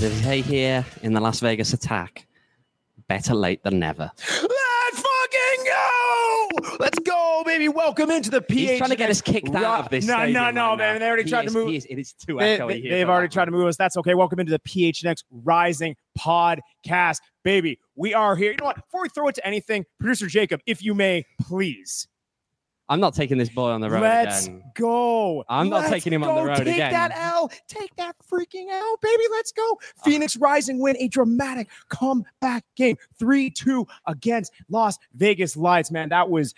they say here in the Las Vegas attack, better late than never. Let's fucking go! Let's go, baby. Welcome into the PHNX. He's trying to get us kicked out of this stadium No, right man. They already tried to move. It is too echoey here. They've already tried to move us. That's okay. Welcome into the PHNX Rising podcast. Baby, we are here. You know what? Before we throw it to anything, producer Jacob, if you may, please. I'm not taking this boy on the road Let's again. go. I'm not taking him on the road Take again. that L. Take that freaking L, baby. Let's go. Phoenix Rising win a dramatic comeback game. 3-2 against Las Vegas Lights, man. That was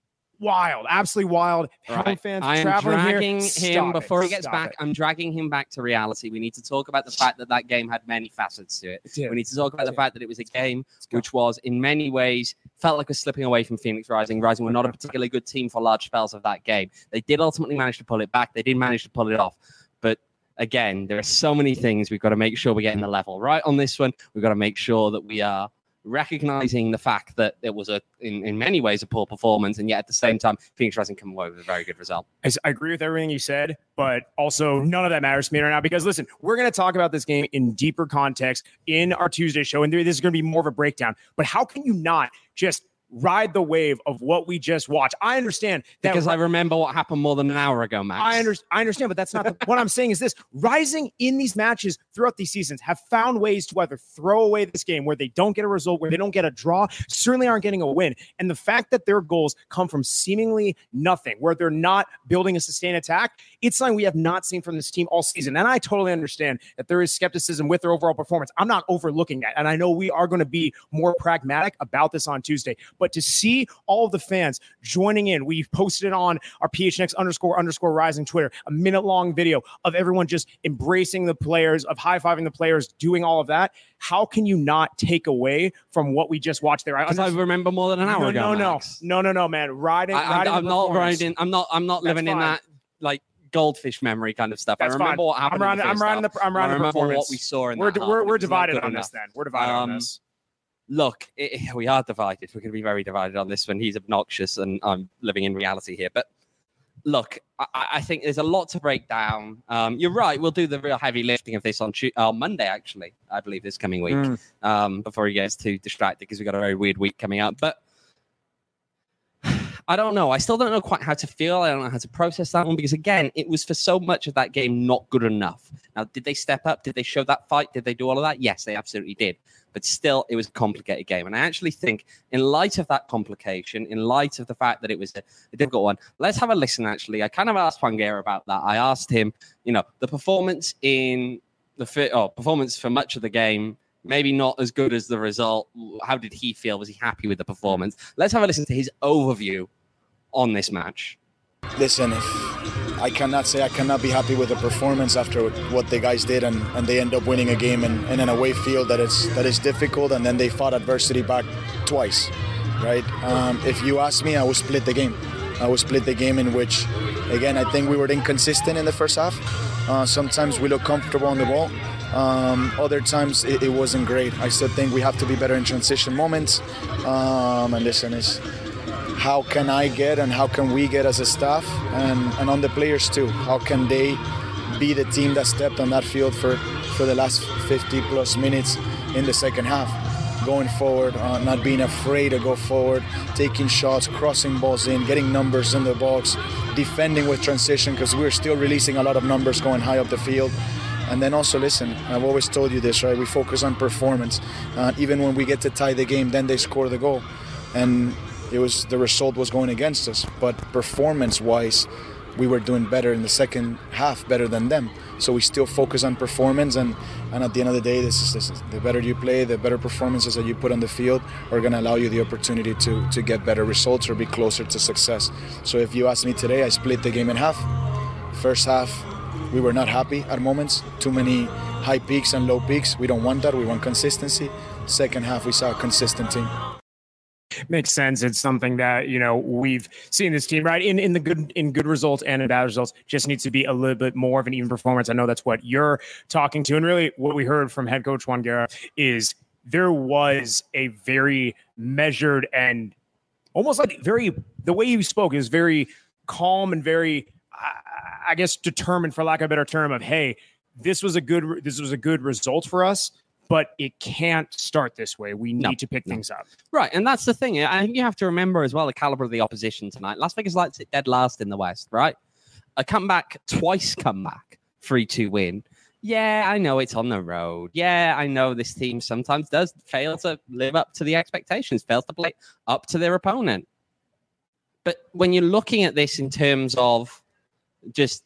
wild. Absolutely wild. Right. Fans I am traveling dragging here. him before he gets back. I'm dragging him back to reality. We need to talk about the fact that that game had many facets to it. We need to talk about the fact that it was a game which was in many ways felt like we're slipping away from Phoenix Rising. Rising were not a particularly good team for large spells of that game. They did ultimately manage to pull it back. They did manage to pull it off. But again, there are so many things we've got to make sure we're getting the level right on this one. We've got to make sure that we are recognizing the fact that it was in many ways a poor performance, and yet at the same time, Phoenix Rising come away with a very good result. I agree with everything you said, but also none of that matters to me right now because listen, we're going to talk about this game in deeper context in our Tuesday show, and this is going to be more of a breakdown. But how can you not just ride the wave of what we just watched? I understand that because I remember what happened more than an hour ago, Max. I understand, but that's not what I'm saying is this. Rising in these matches throughout these seasons have found ways to either throw away this game where they don't get a result, where they don't get a draw, certainly aren't getting a win. And the fact that their goals come from seemingly nothing, where they're not building a sustained attack, it's something we have not seen from this team all season. And I totally understand that there is skepticism with their overall performance. I'm not overlooking that. And I know we are going to be more pragmatic about this on Tuesday. But to see all of the fans joining in, we've posted it on our PHNX__Rising Twitter, a minute-long video of everyone just embracing the players, of high-fiving the players, doing all of that. How can you not take away from what we just watched there? Because I remember more than an hour ago. No, man. I'm not living in that like goldfish memory kind of stuff. That's I remember what happened. I'm riding the performance. What we saw in that. We're divided on this. Then we're divided on this. Look, we are divided. We're going to be very divided on this one. He's obnoxious, and I'm living in reality here. But look, I think there's a lot to break down. You're right. We'll do the real heavy lifting of this on Monday, actually, I believe, this coming week, before he gets too distracted because we've got a very weird week coming up. But I don't know. I still don't know quite how to feel. I don't know how to process that one because, again, it was for so much of that game not good enough. Now, did they step up? Did they show that fight? Did they do all of that? Yes, they absolutely did. But still, it was a complicated game. And I actually think, in light of that complication, in light of the fact that it was a difficult one, let's have a listen, actually. I kind of asked Juanguera about that. I asked him, the performance performance for much of the game, maybe not as good as the result. How did he feel? Was he happy with the performance? Let's have a listen to his overview on this match. Listen, I cannot say I cannot be happy with the performance after what the guys did, and they end up winning a game in an away field that is difficult, and then they fought adversity back twice, right? If you ask me, I would split the game. I would split the game in which, again, I think we were inconsistent in the first half. Sometimes we look comfortable on the ball. Other times it wasn't great. I still think we have to be better in transition moments. And listen, is how can I get and how can we get as a staff and on the players too? How can they be the team that stepped on that field for the last 50 plus minutes in the second half? Going forward, not being afraid to go forward, taking shots, crossing balls in, getting numbers in the box, defending with transition because we're still releasing a lot of numbers going high up the field. And then also, listen, I've always told you this, right? We focus on performance. Even when we get to tie the game, then they score the goal. And the result was going against us. But performance-wise, we were doing better in the second half, better than them. So we still focus on performance. And at the end of the day, this is the better you play, the better performances that you put on the field are going to allow you the opportunity to get better results or be closer to success. So if you ask me today, I split the game in half. First half, we were not happy at moments. Too many high peaks and low peaks. We don't want that. We want consistency. Second half, we saw a consistent team. Makes sense. It's something that, we've seen this team, right? In good results and in bad results, just needs to be a little bit more of an even performance. I know that's what you're talking to. And really what we heard from head coach Juanguera is there was a very measured and almost like the way you spoke is very calm and very, I guess, determined, for lack of a better term, of, hey, this was a good result for us, but it can't start this way. We need to pick things up. Right, and that's the thing. I think you have to remember as well the caliber of the opposition tonight. Las Vegas Lights sit dead last in the West, right? A comeback, 3-2 win. Yeah, I know it's on the road. Yeah, I know this team sometimes does fail to live up to the expectations, fails to play up to their opponent. But when you're looking at this in terms of just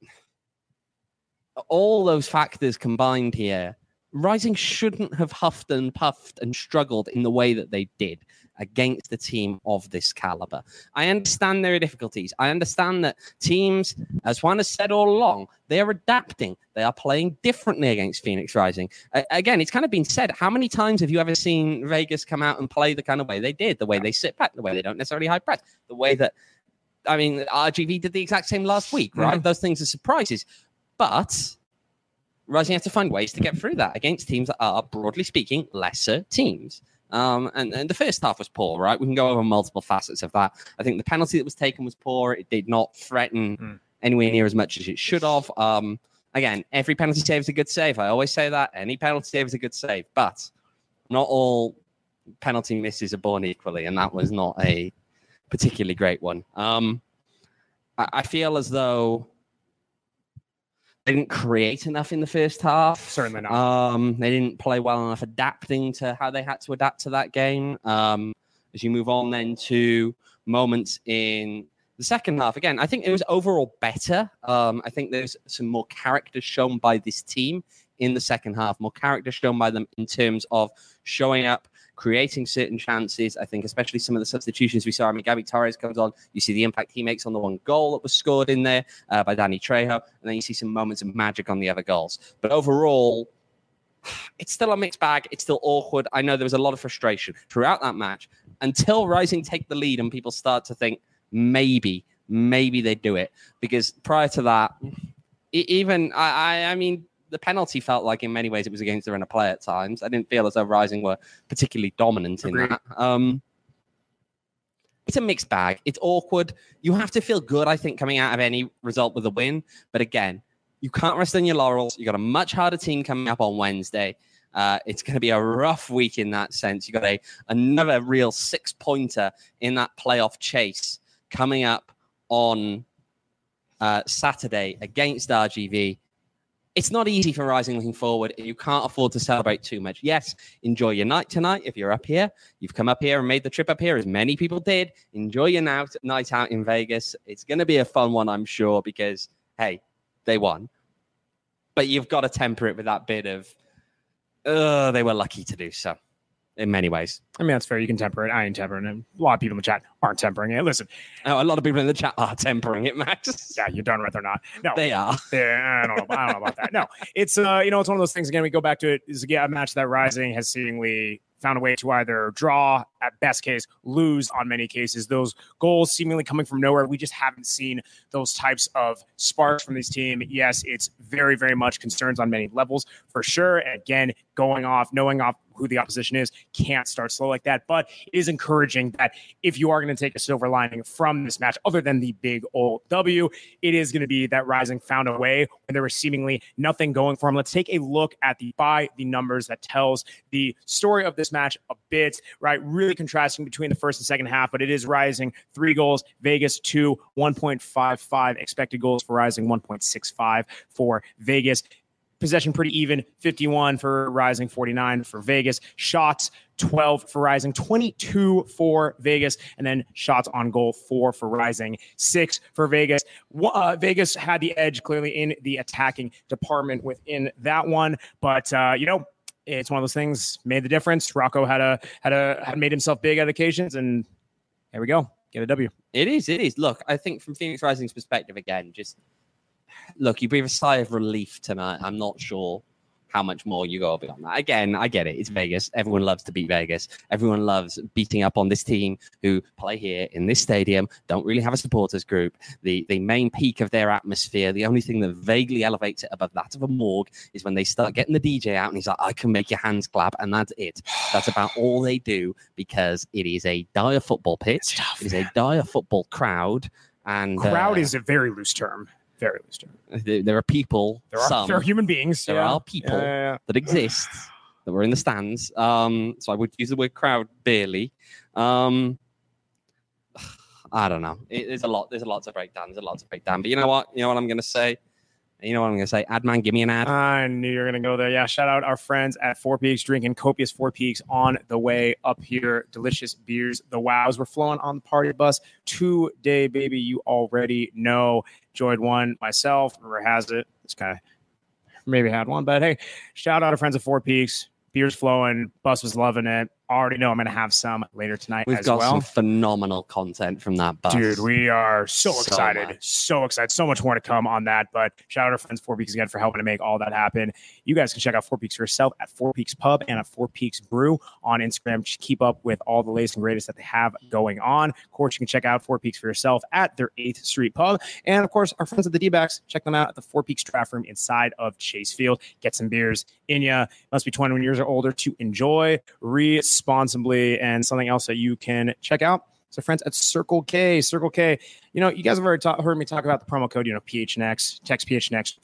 all those factors combined here, Rising shouldn't have huffed and puffed and struggled in the way that they did against a team of this caliber. I understand there are difficulties. I understand that teams, as Juan has said all along, they are adapting. They are playing differently against Phoenix Rising. Again, it's kind of been said, how many times have you ever seen Vegas come out and play the kind of way they did, the way they sit back, the way they don't necessarily high press, the way that, I mean, RGV did the exact same last week, right? Mm-hmm. Those things are surprises. But Rising have to find ways to get through that against teams that are, broadly speaking, lesser teams. And the first half was poor, right? We can go over multiple facets of that. I think the penalty that was taken was poor. It did not threaten anywhere near as much as it should have. Again, every penalty save is a good save. I always say that. Any penalty save is a good save. But not all penalty misses are born equally, and that was not a particularly great one. I feel as though they didn't create enough in the first half. Certainly not. They didn't play well enough adapting to how they had to adapt to that game. As you move on then to moments in the second half, again, I think it was overall better. I think there's some more character shown by this team in the second half, more character shown by them in terms of showing up, creating certain chances. I think especially some of the substitutions we saw. I mean, Gabby Torres comes on. You see the impact he makes on the one goal that was scored in there by Danny Trejo. And then you see some moments of magic on the other goals. But overall, it's still a mixed bag. It's still awkward. I know there was a lot of frustration throughout that match until Rising take the lead and people start to think maybe they do it. Because prior to that, I mean, the penalty felt like in many ways it was against the run of play at times. I didn't feel as though Rising were particularly dominant in that. It's a mixed bag. It's awkward. You have to feel good, I think, coming out of any result with a win. But again, you can't rest on your laurels. You've got a much harder team coming up on Wednesday. It's going to be a rough week in that sense. You've got another real 6-pointer in that playoff chase coming up on Saturday against RGV. It's not easy for Rising looking forward. You can't afford to celebrate too much. Yes, enjoy your night tonight if you're up here. You've come up here and made the trip up here, as many people did. Enjoy your night out in Vegas. It's going to be a fun one, I'm sure, because, hey, they won. But you've got to temper it with that bit of, they were lucky to do so. In many ways. I mean, that's fair. You can temper it. I ain't tempering it. A lot of people in the chat aren't tempering it. Listen. Oh, a lot of people in the chat are tempering it, Max. Yeah, you're darn right they're not. No. They are. I don't know about that. No. It's, it's one of those things, again, we go back to it, is again, a match that Rising has seemingly found a way to either draw, at best case, lose on many cases. Those goals seemingly coming from nowhere. We just haven't seen those types of sparks from this team. Yes, it's very, very much concerns on many levels, for sure. And again, knowing who the opposition is, can't start slow like that. But it is encouraging that if you are going to take a silver lining from this match, other than the big old W, it is going to be that Rising found a way when there was seemingly nothing going for them. Let's take a look at the numbers that tells the story of this match a bit, right? Really contrasting between the first and second half, but it is Rising 3 goals, Vegas 2, 1.55 expected goals for Rising, 1.65 for Vegas. Possession pretty even, 51 for Rising, 49 for Vegas. Shots, 12 for Rising, 22 for Vegas. And then shots on goal, 4 for Rising, 6 for Vegas. Vegas had the edge clearly in the attacking department within that one. But, it's one of those things, made the difference. Rocco had made himself big at occasions, and there we go. Get a W. It is. Look, I think from Phoenix Rising's perspective, again, look, you breathe a sigh of relief tonight. I'm not sure how much more you go beyond that. Again, I get it. It's Vegas. Everyone loves to beat Vegas. Everyone loves beating up on this team who play here in this stadium, don't really have a supporters group. The main peak of their atmosphere, the only thing that vaguely elevates it above that of a morgue is when they start getting the DJ out and he's like, I can make your hands clap. And that's it. That's about all they do, because it is a dire football pitch. It is a dire football crowd. And crowd is a very loose term. Very loose term. There are people. There are human beings. There are people that exist that were in the stands. So I would use the word crowd barely. I don't know. There's a lot to break down. But you know what? I'm going to say? Adman, give me an ad. I knew you were going to go there. Yeah, shout out our friends at Four Peaks, drinking copious Four Peaks on the way up here. Delicious beers. The wows. We're flowing on the party bus today, baby. You already know. Enjoyed one myself. Rumor has it. It's kind of maybe had one. But hey, shout out our friends at Four Peaks. Beers flowing. Bus was loving it. Already know I'm going to have some later tonight. We've got some phenomenal content from that bus. Dude, we are so excited. So excited. So much more to come on that. But shout out our friends Four Peaks again for helping to make all that happen. You guys can check out Four Peaks for yourself at Four Peaks Pub and at Four Peaks Brew on Instagram. Just keep up with all the latest and greatest that they have going on. Of course, you can check out Four Peaks for yourself at their 8th Street Pub. And of course, our friends at the D-backs, check them out at the Four Peaks Draft Room inside of Chase Field. Get some beers in ya. Must be 21 years or older to enjoy responsibly. And something else that you can check out. So friends at Circle K. Circle K, you guys have already heard me talk about the promo code, PHNX. Text PHNX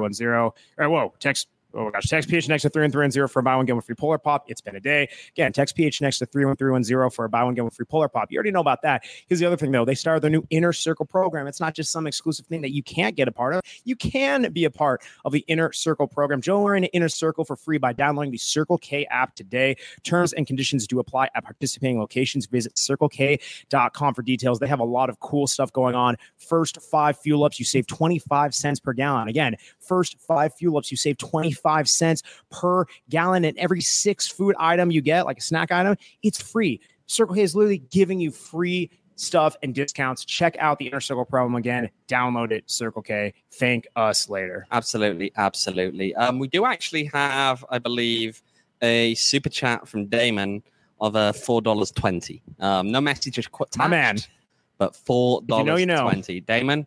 31310. Text PHNX to 31310 for a buy one, get one free Polar Pop. It's been a day. Again, text PHNX to 31310 for a buy one, get one free Polar Pop. You already know about that. Here's the other thing, though. They started their new Inner Circle program. It's not just some exclusive thing that you can't get a part of. You can be a part of the Inner Circle program. Join the Inner Circle for free by downloading the Circle K app today. Terms and conditions do apply at participating locations. Visit CircleK.com for details. They have a lot of cool stuff going on. First 5 fuel ups, you save 25 cents per gallon. Again, first 5 fuel ups, you save 25 cents per gallon, and every 6 food item you get, like a snack item, it's free. Circle K is literally giving you free stuff and discounts. Check out the Inner Circle program again. Download it, Circle K. Thank us later. Absolutely. We do actually have, I believe, a super chat from Damon of $4.20. No message attached. My man. But $4.20. You know. Damon,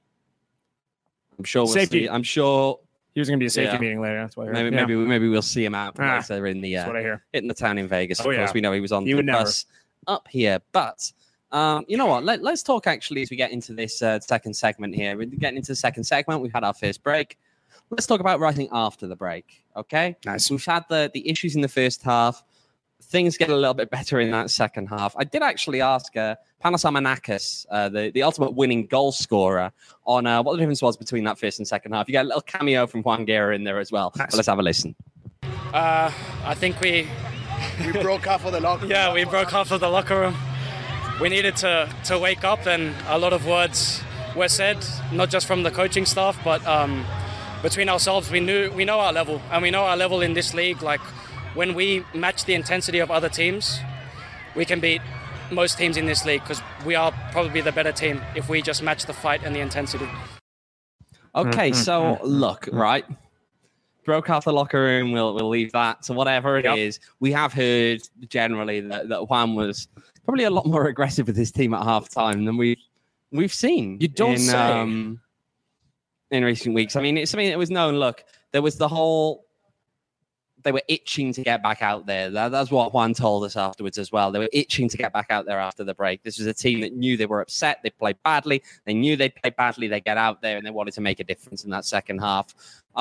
I'm sure we'll Safety. see. I'm sure There's going to be a safety meeting later. That's what I heard. Maybe we'll see him out later in the that's what I hear. hitting the town in Vegas. Of course, we know he was on the bus up here. But you know what? Let's talk actually as we get into this second segment here. We're getting into the second segment. We've had our first break. Let's talk about writing after the break. Okay. Nice. We've had the issues in the first half. Things get a little bit better in that second half. I did actually ask Panos Amanakis, the ultimate winning goal scorer, on what the difference was between that first and second half. You get a little cameo from Juan Guerra in there as well. Nice. But let's have a listen. I think we broke half of the locker room. Yeah, we broke half of the locker room. We needed to wake up, and a lot of words were said, not just from the coaching staff, but between ourselves. We know our level, and we know our level in this league. Like, when we match the intensity of other teams, we can beat most teams in this league because we are probably the better team if we just match the fight and the intensity. Okay, so look, right? Broke half the locker room. We'll leave that. So whatever it is, we have heard generally that Juan was probably a lot more aggressive with his team at halftime than we've seen. You don't say. In recent weeks. I mean, it's something that was known. Look, there was the whole. They were itching to get back out there. That's what Juan told us afterwards as well. They were itching to get back out there after the break. This was a team that knew they were upset. They played badly. They knew they'd play badly. They get out there and they wanted to make a difference in that second half.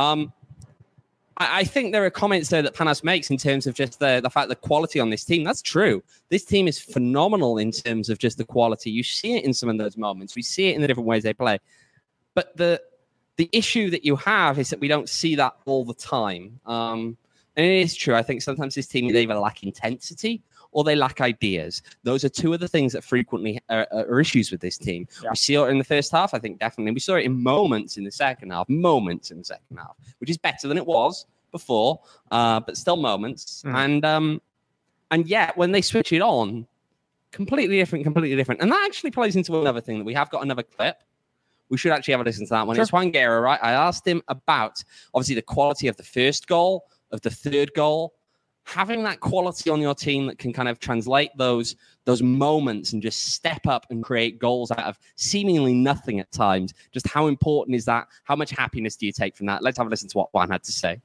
I think there are comments there that Panos makes in terms of just the fact the quality on this team. That's true. This team is phenomenal in terms of just the quality. You see it in some of those moments. We see it in the different ways they play. But the issue that you have is that we don't see that all the time. And it is true. I think sometimes this team, they either lack intensity or they lack ideas. Those are two of the things that frequently are issues with this team. Yeah. We see it in the first half, I think, definitely. We saw it in moments in the second half, which is better than it was before, but still moments. And yet, when they switch it on, completely different. And that actually plays into another thing that we have got another clip. We should actually have a listen to that one. Sure. It's Juan Guerra, right? I asked him about, obviously, the quality of the first goal, of the third goal, having that quality on your team that can kind of translate those moments and just step up and create goals out of seemingly nothing at times. Just how important is that? How much happiness do you take from that? Let's have a listen to what Juan had to say.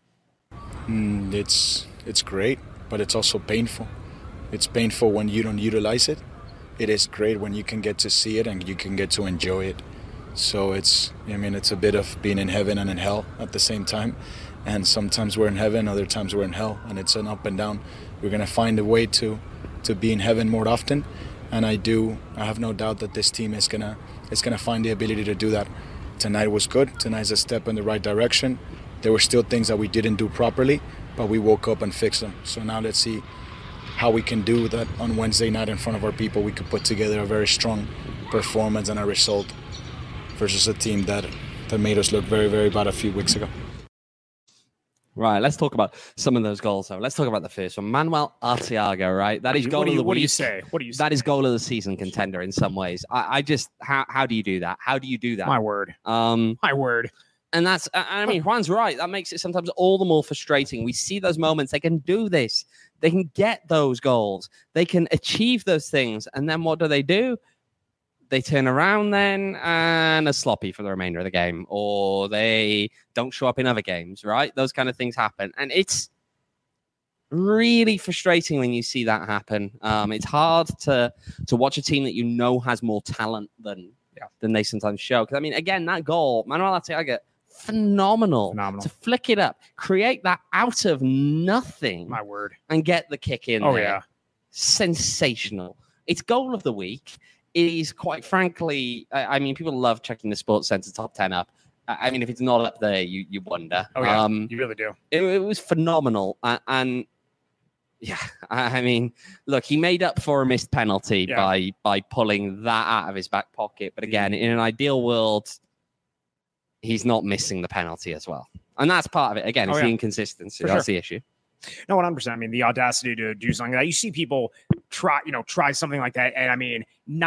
It's great, but it's also painful. It's painful when you don't utilize it. It is great when you can get to see it and you can get to enjoy it. So it's a bit of being in heaven and in hell at the same time. And sometimes we're in heaven, other times we're in hell, and it's an up and down. We're going to find a way to be in heaven more often, and I have no doubt that this team is gonna find the ability to do that. Tonight was good. Tonight's a step in the right direction. There were still things that we didn't do properly, but we woke up and fixed them. So now let's see how we can do that on Wednesday night in front of our people. We could put together a very strong performance and a result versus a team that made us look very, very bad a few weeks ago. Right, let's talk about some of those goals, though. Let's talk about the first one. Manuel Arteaga, right? That is goal of the week. What do you say? That is goal of the season contender in some ways. I just, how do you do that? How do you do that? My word. My word. And that's, I mean, Juan's right. That makes it sometimes all the more frustrating. We see those moments. They can do this. They can get those goals. They can achieve those things. And then what do? They turn around then and are sloppy for the remainder of the game, or they don't show up in other games, right? Those kind of things happen. And it's really frustrating when you see that happen. It's hard to watch a team that you know has more talent than they sometimes show. Because, I mean, again, that goal, Manuel Arteaga, phenomenal. To flick it up, create that out of nothing. My word. And get the kick in there. Yeah. Sensational. It's goal of the week. It is, quite frankly, I mean, people love checking the Sports Center top 10 up. I mean, if it's not up there, you wonder. Oh, yeah, you really do. It was phenomenal. And yeah, I mean, look, he made up for a missed penalty by pulling that out of his back pocket. But again, in an ideal world, he's not missing the penalty as well. And that's part of it. Again, it's the inconsistency. That's the issue. No, 100%. I mean, the audacity to do something like that. You see people try something like that. And I mean,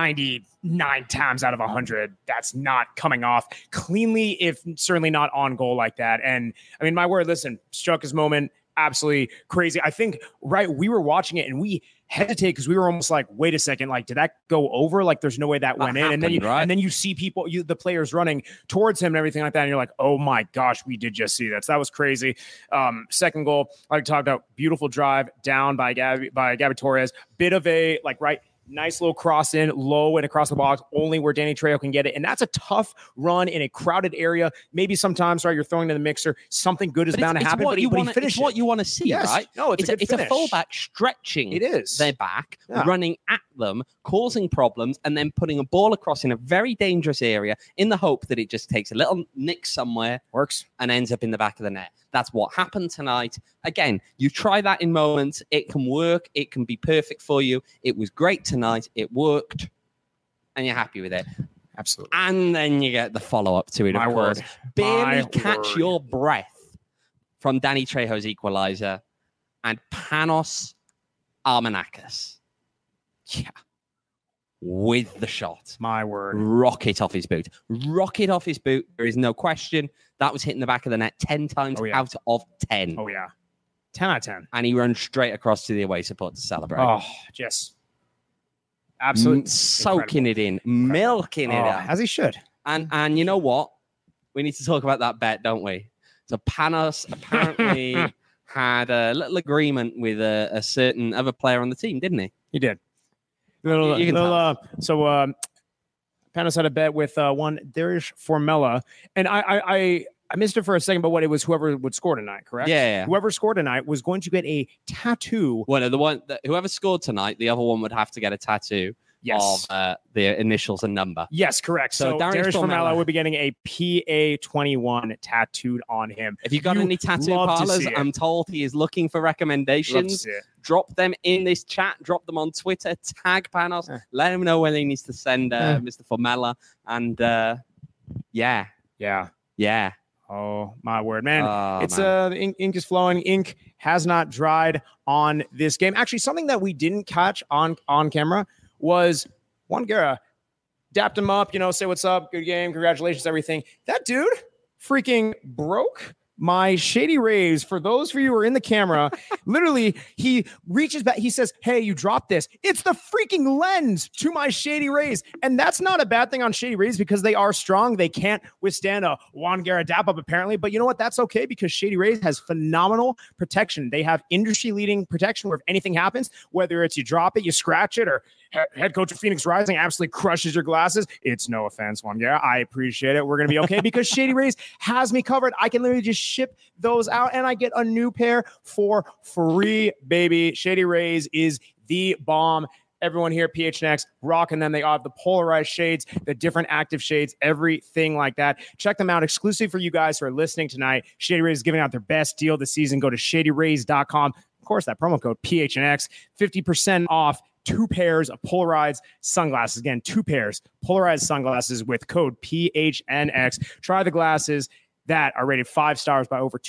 99 times out of 100, that's not coming off cleanly, if certainly not on goal like that. And I mean, my word, listen, struck his moment. Absolutely crazy. I think, we were watching it and we hesitate because we were almost like, wait a second, like, did that go over? Like, there's no way that went in. And then you see people, the players running towards him and everything like that. And you're like, oh my gosh, we did just see that. So that was crazy. Second goal, like talked about, beautiful drive down by Gabby Torres. Bit of a nice little cross in, low and across the box, only where Danny Trejo can get it. And that's a tough run in a crowded area. Maybe sometimes, you're throwing in the mixer, something good is bound to happen, but he finishes. It's what you want to see, right? No, it's a fullback stretching their back, running at them, causing problems, and then putting a ball across in a very dangerous area in the hope that it just takes a little nick somewhere, works, and ends up in the back of the net. That's what happened tonight. Again, you try that in moments. It can work. It can be perfect for you. It was great tonight. It worked. And you're happy with it. Absolutely. And then you get the follow-up to it, of course. Barely catch your breath from Danny Trejo's equalizer and Panos Armenakis. Yeah. With the shot. My word. Rocket off his boot. There is no question. That was hitting the back of the net 10 times out of 10. Oh, yeah. 10 out of 10. And he runs straight across to the away support to celebrate. Oh, just absolutely soaking it in, milking it up. As he should. And you know what? We need to talk about that bet, don't we? So Panos apparently had a little agreement with a certain other player on the team, didn't he? He did. So Panos had a bet with one Darius Formella, and I missed it for a second, but what it was, whoever would score tonight, correct? Yeah. Whoever scored tonight was going to get a tattoo. Well, no, whoever scored tonight, the other one would have to get a tattoo. Yes. Of the initials and number. Yes, correct. So Darius Formella would be getting a PA21 tattooed on him. If you got any tattoo parlors, I'm told he is looking for recommendations. Drop them in this chat. Drop them on Twitter. Tag Panos. Let him know when he needs to send Mr. Formella. And yeah. Oh, my word, man. The ink is flowing. Ink has not dried on this game. Actually, something that we didn't catch on camera was Juan Guerra dapped him up, say what's up, good game, congratulations, everything. That dude freaking broke my Shady Rays. For those of you who are in the camera, literally, he reaches back. He says, hey, you dropped this. It's the freaking lens to my Shady Rays. And that's not a bad thing on Shady Rays because they are strong. They can't withstand a Juan Guerra dap up, apparently. But you know what? That's okay because Shady Rays has phenomenal protection. They have industry-leading protection where if anything happens, whether it's you drop it, you scratch it, or Head coach of Phoenix Rising absolutely crushes your glasses. It's no offense, one. Yeah, I appreciate it. We're going to be okay because Shady Rays has me covered. I can literally just ship those out and I get a new pair for free, baby. Shady Rays is the bomb. Everyone here at PHNX rocking them. They have the polarized shades, the different active shades, everything like that. Check them out exclusively for you guys who are listening tonight. Shady Rays is giving out their best deal this season. Go to shadyrays.com. Of course, that promo code PHNX, 50% off 2 pairs of polarized sunglasses. Again, 2 pairs polarized sunglasses with code PHNX. Try the glasses that are rated 5 stars by over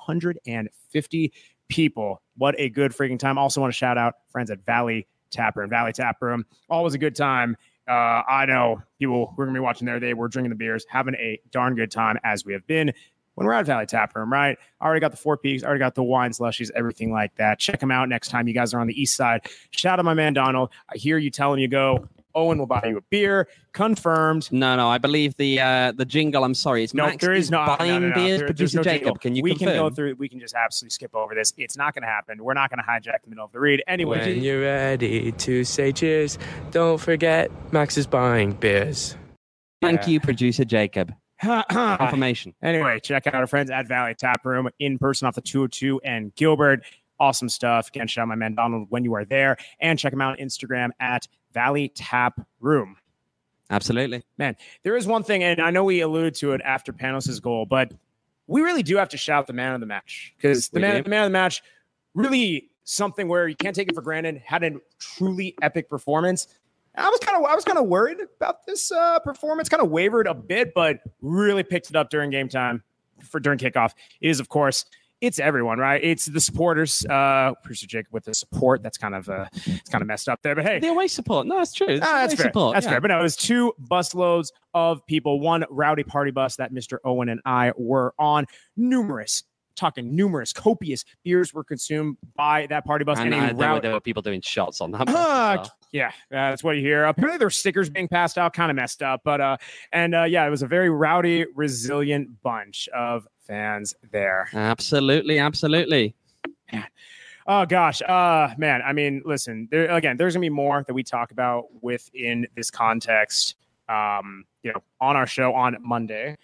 250 people. What a good freaking time. Also want to shout out friends at Valley Tap Room. Always a good time. I know people who are going to be watching there. They were drinking the beers, having a darn good time as we have been when we're at Valley Tap Room, right? Already got the 4 Peaks, already got the wine slushies, everything like that. Check them out next time you guys are on the east side. Shout out my man Donald. I hear you telling you go. Owen will buy you a beer. Confirmed. No. I believe the jingle. I'm sorry. It's no, Max there is no buying beers. There's Producer no Jacob, jingle. can you we confirm? can go through. We can just absolutely skip over this. It's not going to happen. We're not going to hijack the middle of the read. Anyway, when you're ready to say cheers, don't forget Max is buying beers. Thank you, Producer Jacob. Confirmation. Anyway, check out our friends at Valley Tap Room in person off the 202 and Gilbert. Awesome stuff. Again, shout out my man Donald when you are there, and check him out on Instagram at Valley Tap Room. Absolutely. Man, there is one thing, and I know we alluded to it after Panos' goal, but we really do have to shout the man of the match, because the man of the match, really something where you can't take it for granted, had a truly epic performance. I was kind of worried about this performance, kind of wavered a bit, but really picked it up during game time during kickoff. It is, of course, it's everyone, right? It's the supporters. Producer Jacob with the support. That's kind of messed up there. But hey, the away support. No, it's true. That's fair. Support. That's fair. But no, it was 2 busloads of people. 1 rowdy party bus that Mr. Owen and I were on. Numerous, copious beers were consumed by that party bus. And there were people doing shots on that bus. Yeah, that's what you hear. Apparently, there were stickers being passed out, kind of messed up. But it was a very rowdy, resilient bunch of fans there. Absolutely. Man. Oh gosh, man. I mean, listen. There's gonna be more that we talk about within this context. On our show on Monday.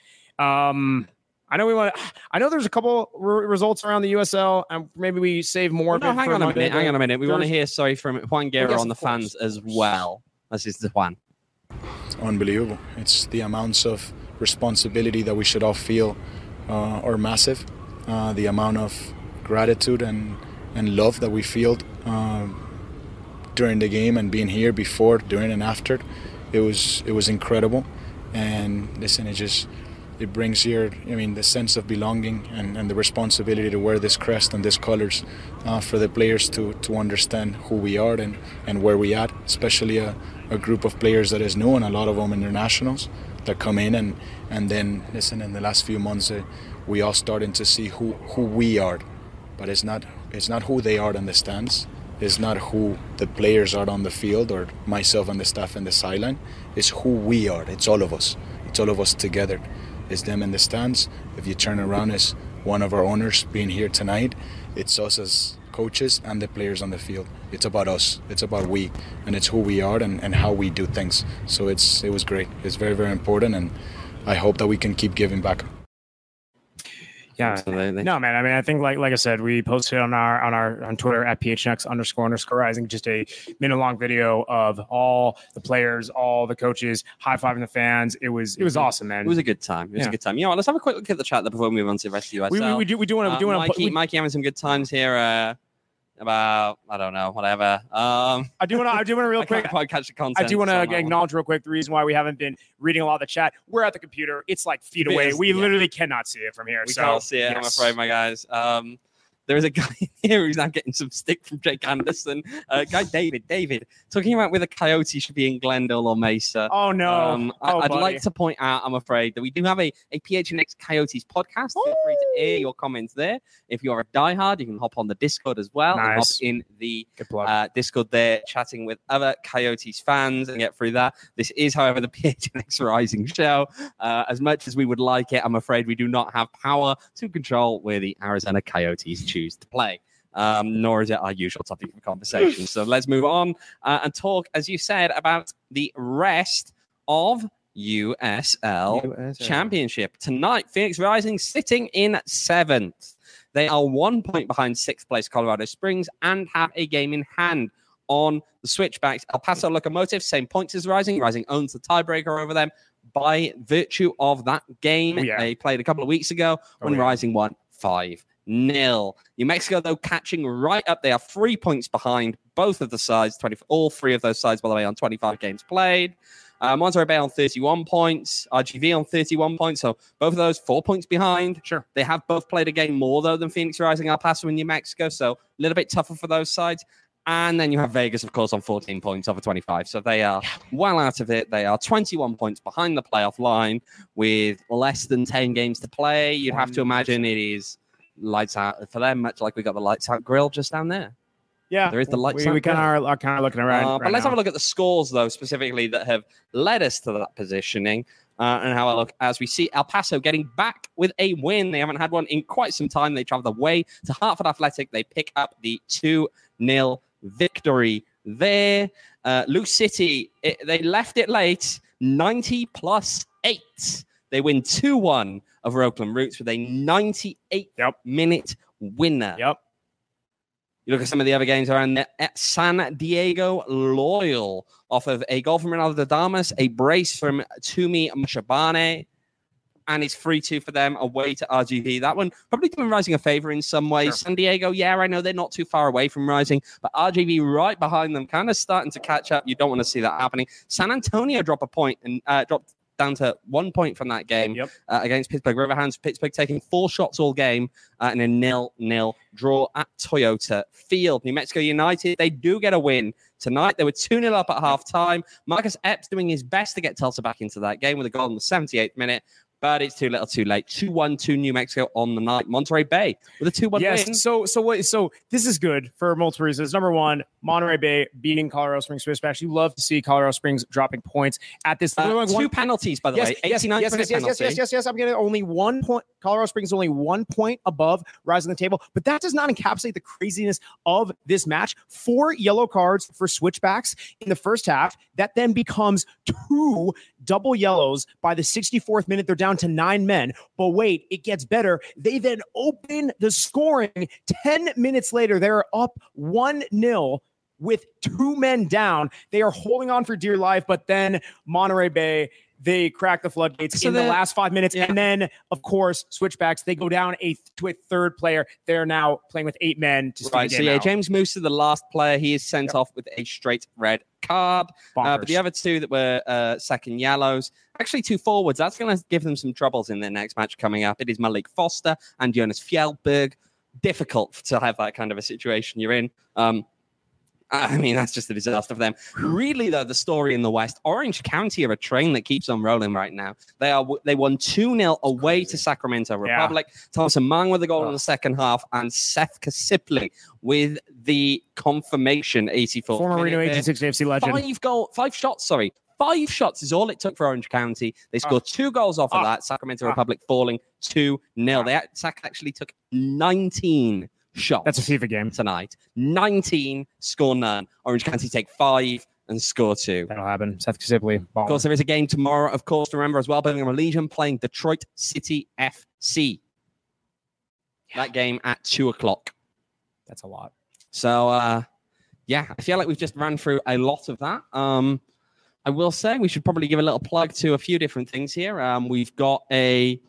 I know there's a couple results around the USL, and maybe we save more. No, hang on a minute. We want to hear from Juan Guerra on the fans as well. This is the Juan. Unbelievable. It's the amounts of responsibility that we should all feel are massive. The amount of gratitude and love that we feel during the game and being here before, during, and after, it was incredible. And listen, it brings here, the sense of belonging and the responsibility to wear this crest and these colors for the players to understand who we are and where we at, especially a group of players that is new, and a lot of them internationals that come in and then, listen, in the last few months, we all starting to see who we are. But it's not who they are in the stands. It's not who the players are on the field or myself and the staff in the sideline. It's who we are. It's all of us. It's all of us together. It's them in the stands. If you turn around, it's one of our owners being here tonight. It's us as coaches and the players on the field. It's about us. It's about we. And it's who we are and how we do things. So it was great. It's very, very important. And I hope that we can keep giving back. Yeah, absolutely. No, man. I mean, I think like I said, we posted on on Twitter at PHNX__rising just a minute-long video of all the players, all the coaches high-fiving the fans. It was awesome, man. It was a good time. It was a good time. You know what? Let's have a quick look at the chat before we move on to the rest of the USL. We do want to. Mikey having some good times here. About, I don't know, whatever. I do want to real quick. I can't quite catch the content. I do want to acknowledge real quick the reason why we haven't been reading a lot of the chat. We're at the computer. It's like feet away. We literally cannot see it from here. We can't see it, yes. I'm afraid, my guys. There is a guy here who's now getting some stick from Jake Anderson. Guy David, talking about whether Coyote should be in Glendale or Mesa. Oh, no. I'd like to point out, I'm afraid, that we do have a PHNX Coyotes podcast. Feel free to air your comments there. If you're a diehard, you can hop on the Discord as well. Nice. And hop in the Discord there, chatting with other Coyotes fans and get through that. This is, however, the PHNX Rising show. As much as we would like it, I'm afraid we do not have power to control where the Arizona Coyotes choose to play. nor is it our usual topic of conversation. So let's move on and talk, as you said, about the rest of USL Championship. Tonight, Phoenix Rising sitting in 7th. They are 1 point behind 6th place Colorado Springs and have a game in hand on the Switchbacks. El Paso Locomotive, same points as Rising. Rising owns the tiebreaker over them by virtue of that game they played a couple of weeks ago when Rising won 5-0. New Mexico, though, catching right up. They are 3 points behind both of the sides, all three of those sides, by the way, on 25 games played. Monterey Bay on 31 points, RGV on 31 points. So both of those 4 points behind. Sure. They have both played a game more, though, than Phoenix Rising, El Paso, and New Mexico. So a little bit tougher for those sides. And then you have Vegas, of course, on 14 points over 25. So they are well out of it. They are 21 points behind the playoff line with less than 10 games to play. You'd have to imagine it is lights out for them, much like we got the lights out grill just down there. Yeah, there is the lights out. We kind of are looking around. But let's have a look at the scores, though, specifically that have led us to that positioning. And how I look as we see El Paso getting back with a win. They haven't had one in quite some time. They traveled away to Hartford Athletic. They pick up the 2-0 victory there. Lou City, they left it late, 90+8. They win 2-1 over Oakland Roots with a 98-minute winner. You look at some of the other games around there. At San Diego Loyal off of a goal from Ronaldo Damas, a brace from Tumi Mashabane, and it's 3-2 for them away to RGV. That one probably doing Rising a favor in some ways. Sure. San Diego, I know they're not too far away from Rising, but RGV right behind them, kind of starting to catch up. You don't want to see that happening. San Antonio drop a point and dropped down to 1 point from that game against Pittsburgh Riverhounds. Pittsburgh taking 4 shots all game in a 0-0 draw at Toyota Field. New Mexico United, they do get a win tonight. They were 2-0 up at halftime. Marcus Epps doing his best to get Tulsa back into that game with a goal in the 78th minute. But it's too little, too late. 2-1 to New Mexico on the night. Monterey Bay with a 2-1 win. Yes. So this is good for multiple reasons. Number one, Monterey Bay beating Colorado Springs Switchbacks. You love to see Colorado Springs dropping points at this. Two penalties, by the way. 89 yes. I'm getting only 1 point. Colorado Springs only 1 point above Rising the table, but that does not encapsulate the craziness of this match. 4 yellow cards for Switchbacks in the first half. That then becomes 2 double yellows by the 64th minute. They're down to 9 men. But wait, it gets better. They then open the scoring. 10 minutes later, they're up 1-0 with 2 men down. They are holding on for dear life, but then Monterey Bay, they crack the floodgates in the last 5 minutes. And then, of course, Switchbacks, they go down to a third player. They're now playing with 8 men. James Moose is the last player. He is sent off with a straight red card. But the other 2 that were second yellows, actually 2 forwards, that's going to give them some troubles in their next match coming up. It is Malik Foster and Jonas Fjellberg. Difficult to have that kind of a situation you're in. I mean, that's just a disaster for them. Really, though, the story in the West, Orange County are a train that keeps on rolling right now. They won 2-0 away to Sacramento Republic. Thomas Mang with the goal in the second half, and Seth Kasipli with the confirmation 84th. Former Reno 1860 FC legend. 5 shots. 5 shots is all it took for Orange County. They scored 2 goals off of that. Sacramento Republic falling 2-0. Sac actually took 19 shots. That's a FIFA game tonight. 19, score none. Orange County take 5 and score 2. That'll happen. Seth Kasipli. Of course, there is a game tomorrow, of course, to remember as well. Birmingham Legion playing Detroit City FC. That game at 2:00. That's a lot. So, I feel like we've just ran through a lot of that. I will say we should probably give a little plug to a few different things here. We've got a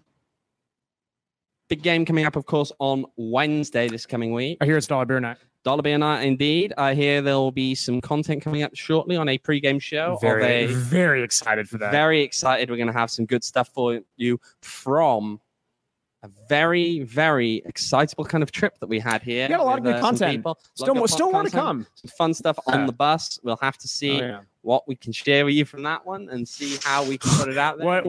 big game coming up, of course, on Wednesday this coming week. I hear it's Dollar Beer Night. Dollar Beer Night, indeed. I hear there will be some content coming up shortly on a pregame show. Very excited for that. Very excited. We're going to have some good stuff for you from a very, very excitable kind of trip that we had here. We got a lot of good content. Still more to come. Some fun stuff on the bus. We'll have to see what we can share with you from that one and see how we can put it out there.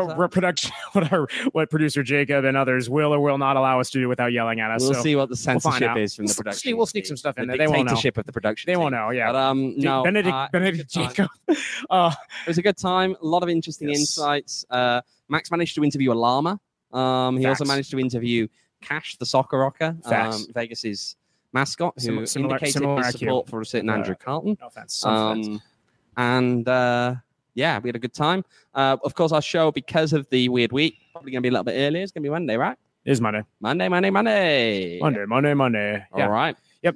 What producer Jacob and others will or will not allow us to do without yelling at us. We'll see what the censorship is from the production. We'll sneak some stuff in there. They won't know. Of the production. They won't know. Yeah. But, no. Benedict Jacob. It was a good time. A lot of interesting insights. Max managed to interview a llama. He also managed to interview Cash, the soccer rocker. Vegas is mascot who indicated his IQ. support for a certain Andrew Carlton. No offense. Some offense. And yeah, we had a good time. Of course, our show, because of the weird week, probably going to be a little bit earlier. It's going to be Monday, right? It is Monday. Monday. Monday. Yeah. All right. Yep.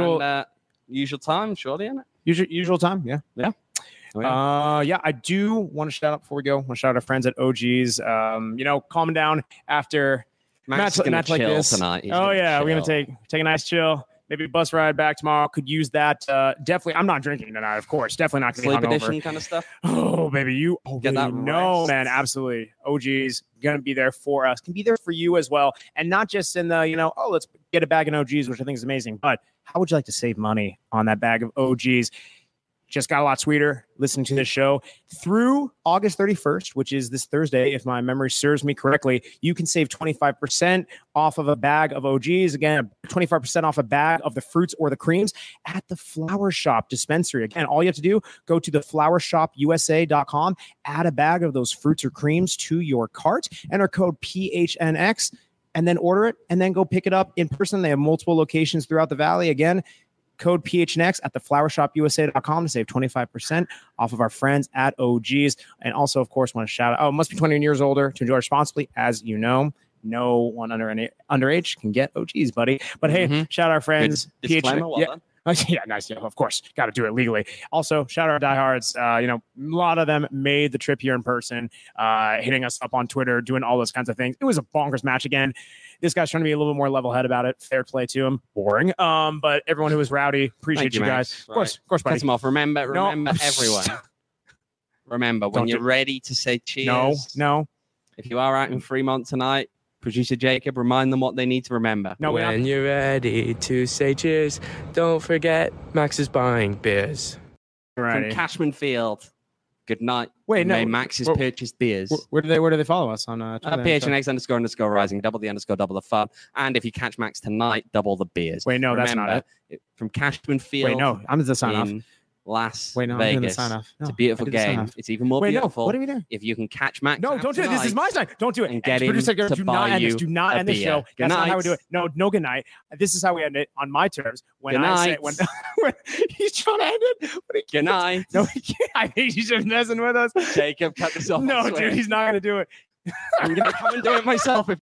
Usual time, surely, isn't it? Usual time. Yeah. Yeah. Oh, yeah. Yeah, I do want to shout out before we go. I want to shout out our friends at OGs. Calm down after Max is going to chill like this tonight. We're going to take a nice chill. Maybe a bus ride back tomorrow. Could use that. Definitely. I'm not drinking tonight, of course. Definitely not going to be hungover. Sleep edition kind of stuff. Oh, baby, you Get that rest. man. Absolutely. OGs going to be there for us. Can be there for you as well, and not just in the let's get a bag of OGs, which I think is amazing. But how would you like to save money on that bag of OGs? Just got a lot sweeter listening to this show. Through August 31st, which is this Thursday, if my memory serves me correctly, you can save 25% off of a bag of OGs. Again, 25% off a bag of the fruits or the creams at the Flower Shop dispensary. Again, all you have to do, go to theflowershopusa.com, add a bag of those fruits or creams to your cart, enter code PHNX, and then order it, and then go pick it up in person. They have multiple locations throughout the valley. Again, code PHNX at theflowershopusa.com to save 25% off of our friends at OGs. And also, of course, want to shout out, must be 21 years older to enjoy responsibly. As you know, no one underage can get OGs, buddy. But hey, shout out our friends. Good disclaimer, well done. Yeah, nice. Yeah, of course. Got to do it legally. Also, shout out our diehards. A lot of them made the trip here in person, hitting us up on Twitter, doing all those kinds of things. It was a bonkers match again. This guy's trying to be a little bit more level-headed about it. Fair play to him. Boring. But everyone who was rowdy, appreciate you guys. Of course, buddy. Cut them off. Remember, everyone. Remember, when you're ready to say cheers. No. If you are out in Fremont tonight, producer Jacob, remind them what they need to remember. No, when you're ready to say cheers, don't forget Max is buying beers. From Cashman Field. Good night. Wait, no. May Max has purchased beers. Where do they follow us on Twitter? PHNX __rising, double the fun. And if you catch Max tonight, double the beers. Wait, no, that's not it. From Cashman Field. Wait, no, I'm the sign off. Las Vegas. I'm doing the sign off. No, it's a beautiful game. It's even more beautiful. No, what are we doing? If you can catch Max. No, don't do it. This is my sign. Don't do it. And get him producer, to do buy not you end this. Do not end the show. That's not how we do it. No, good night. This is how we end it on my terms. When I say when he's trying to end it. Good night. No, he can't. I think he's just messing with us. Jacob, cut this off. No, dude, he's not going to do it. I'm going to come and do it myself.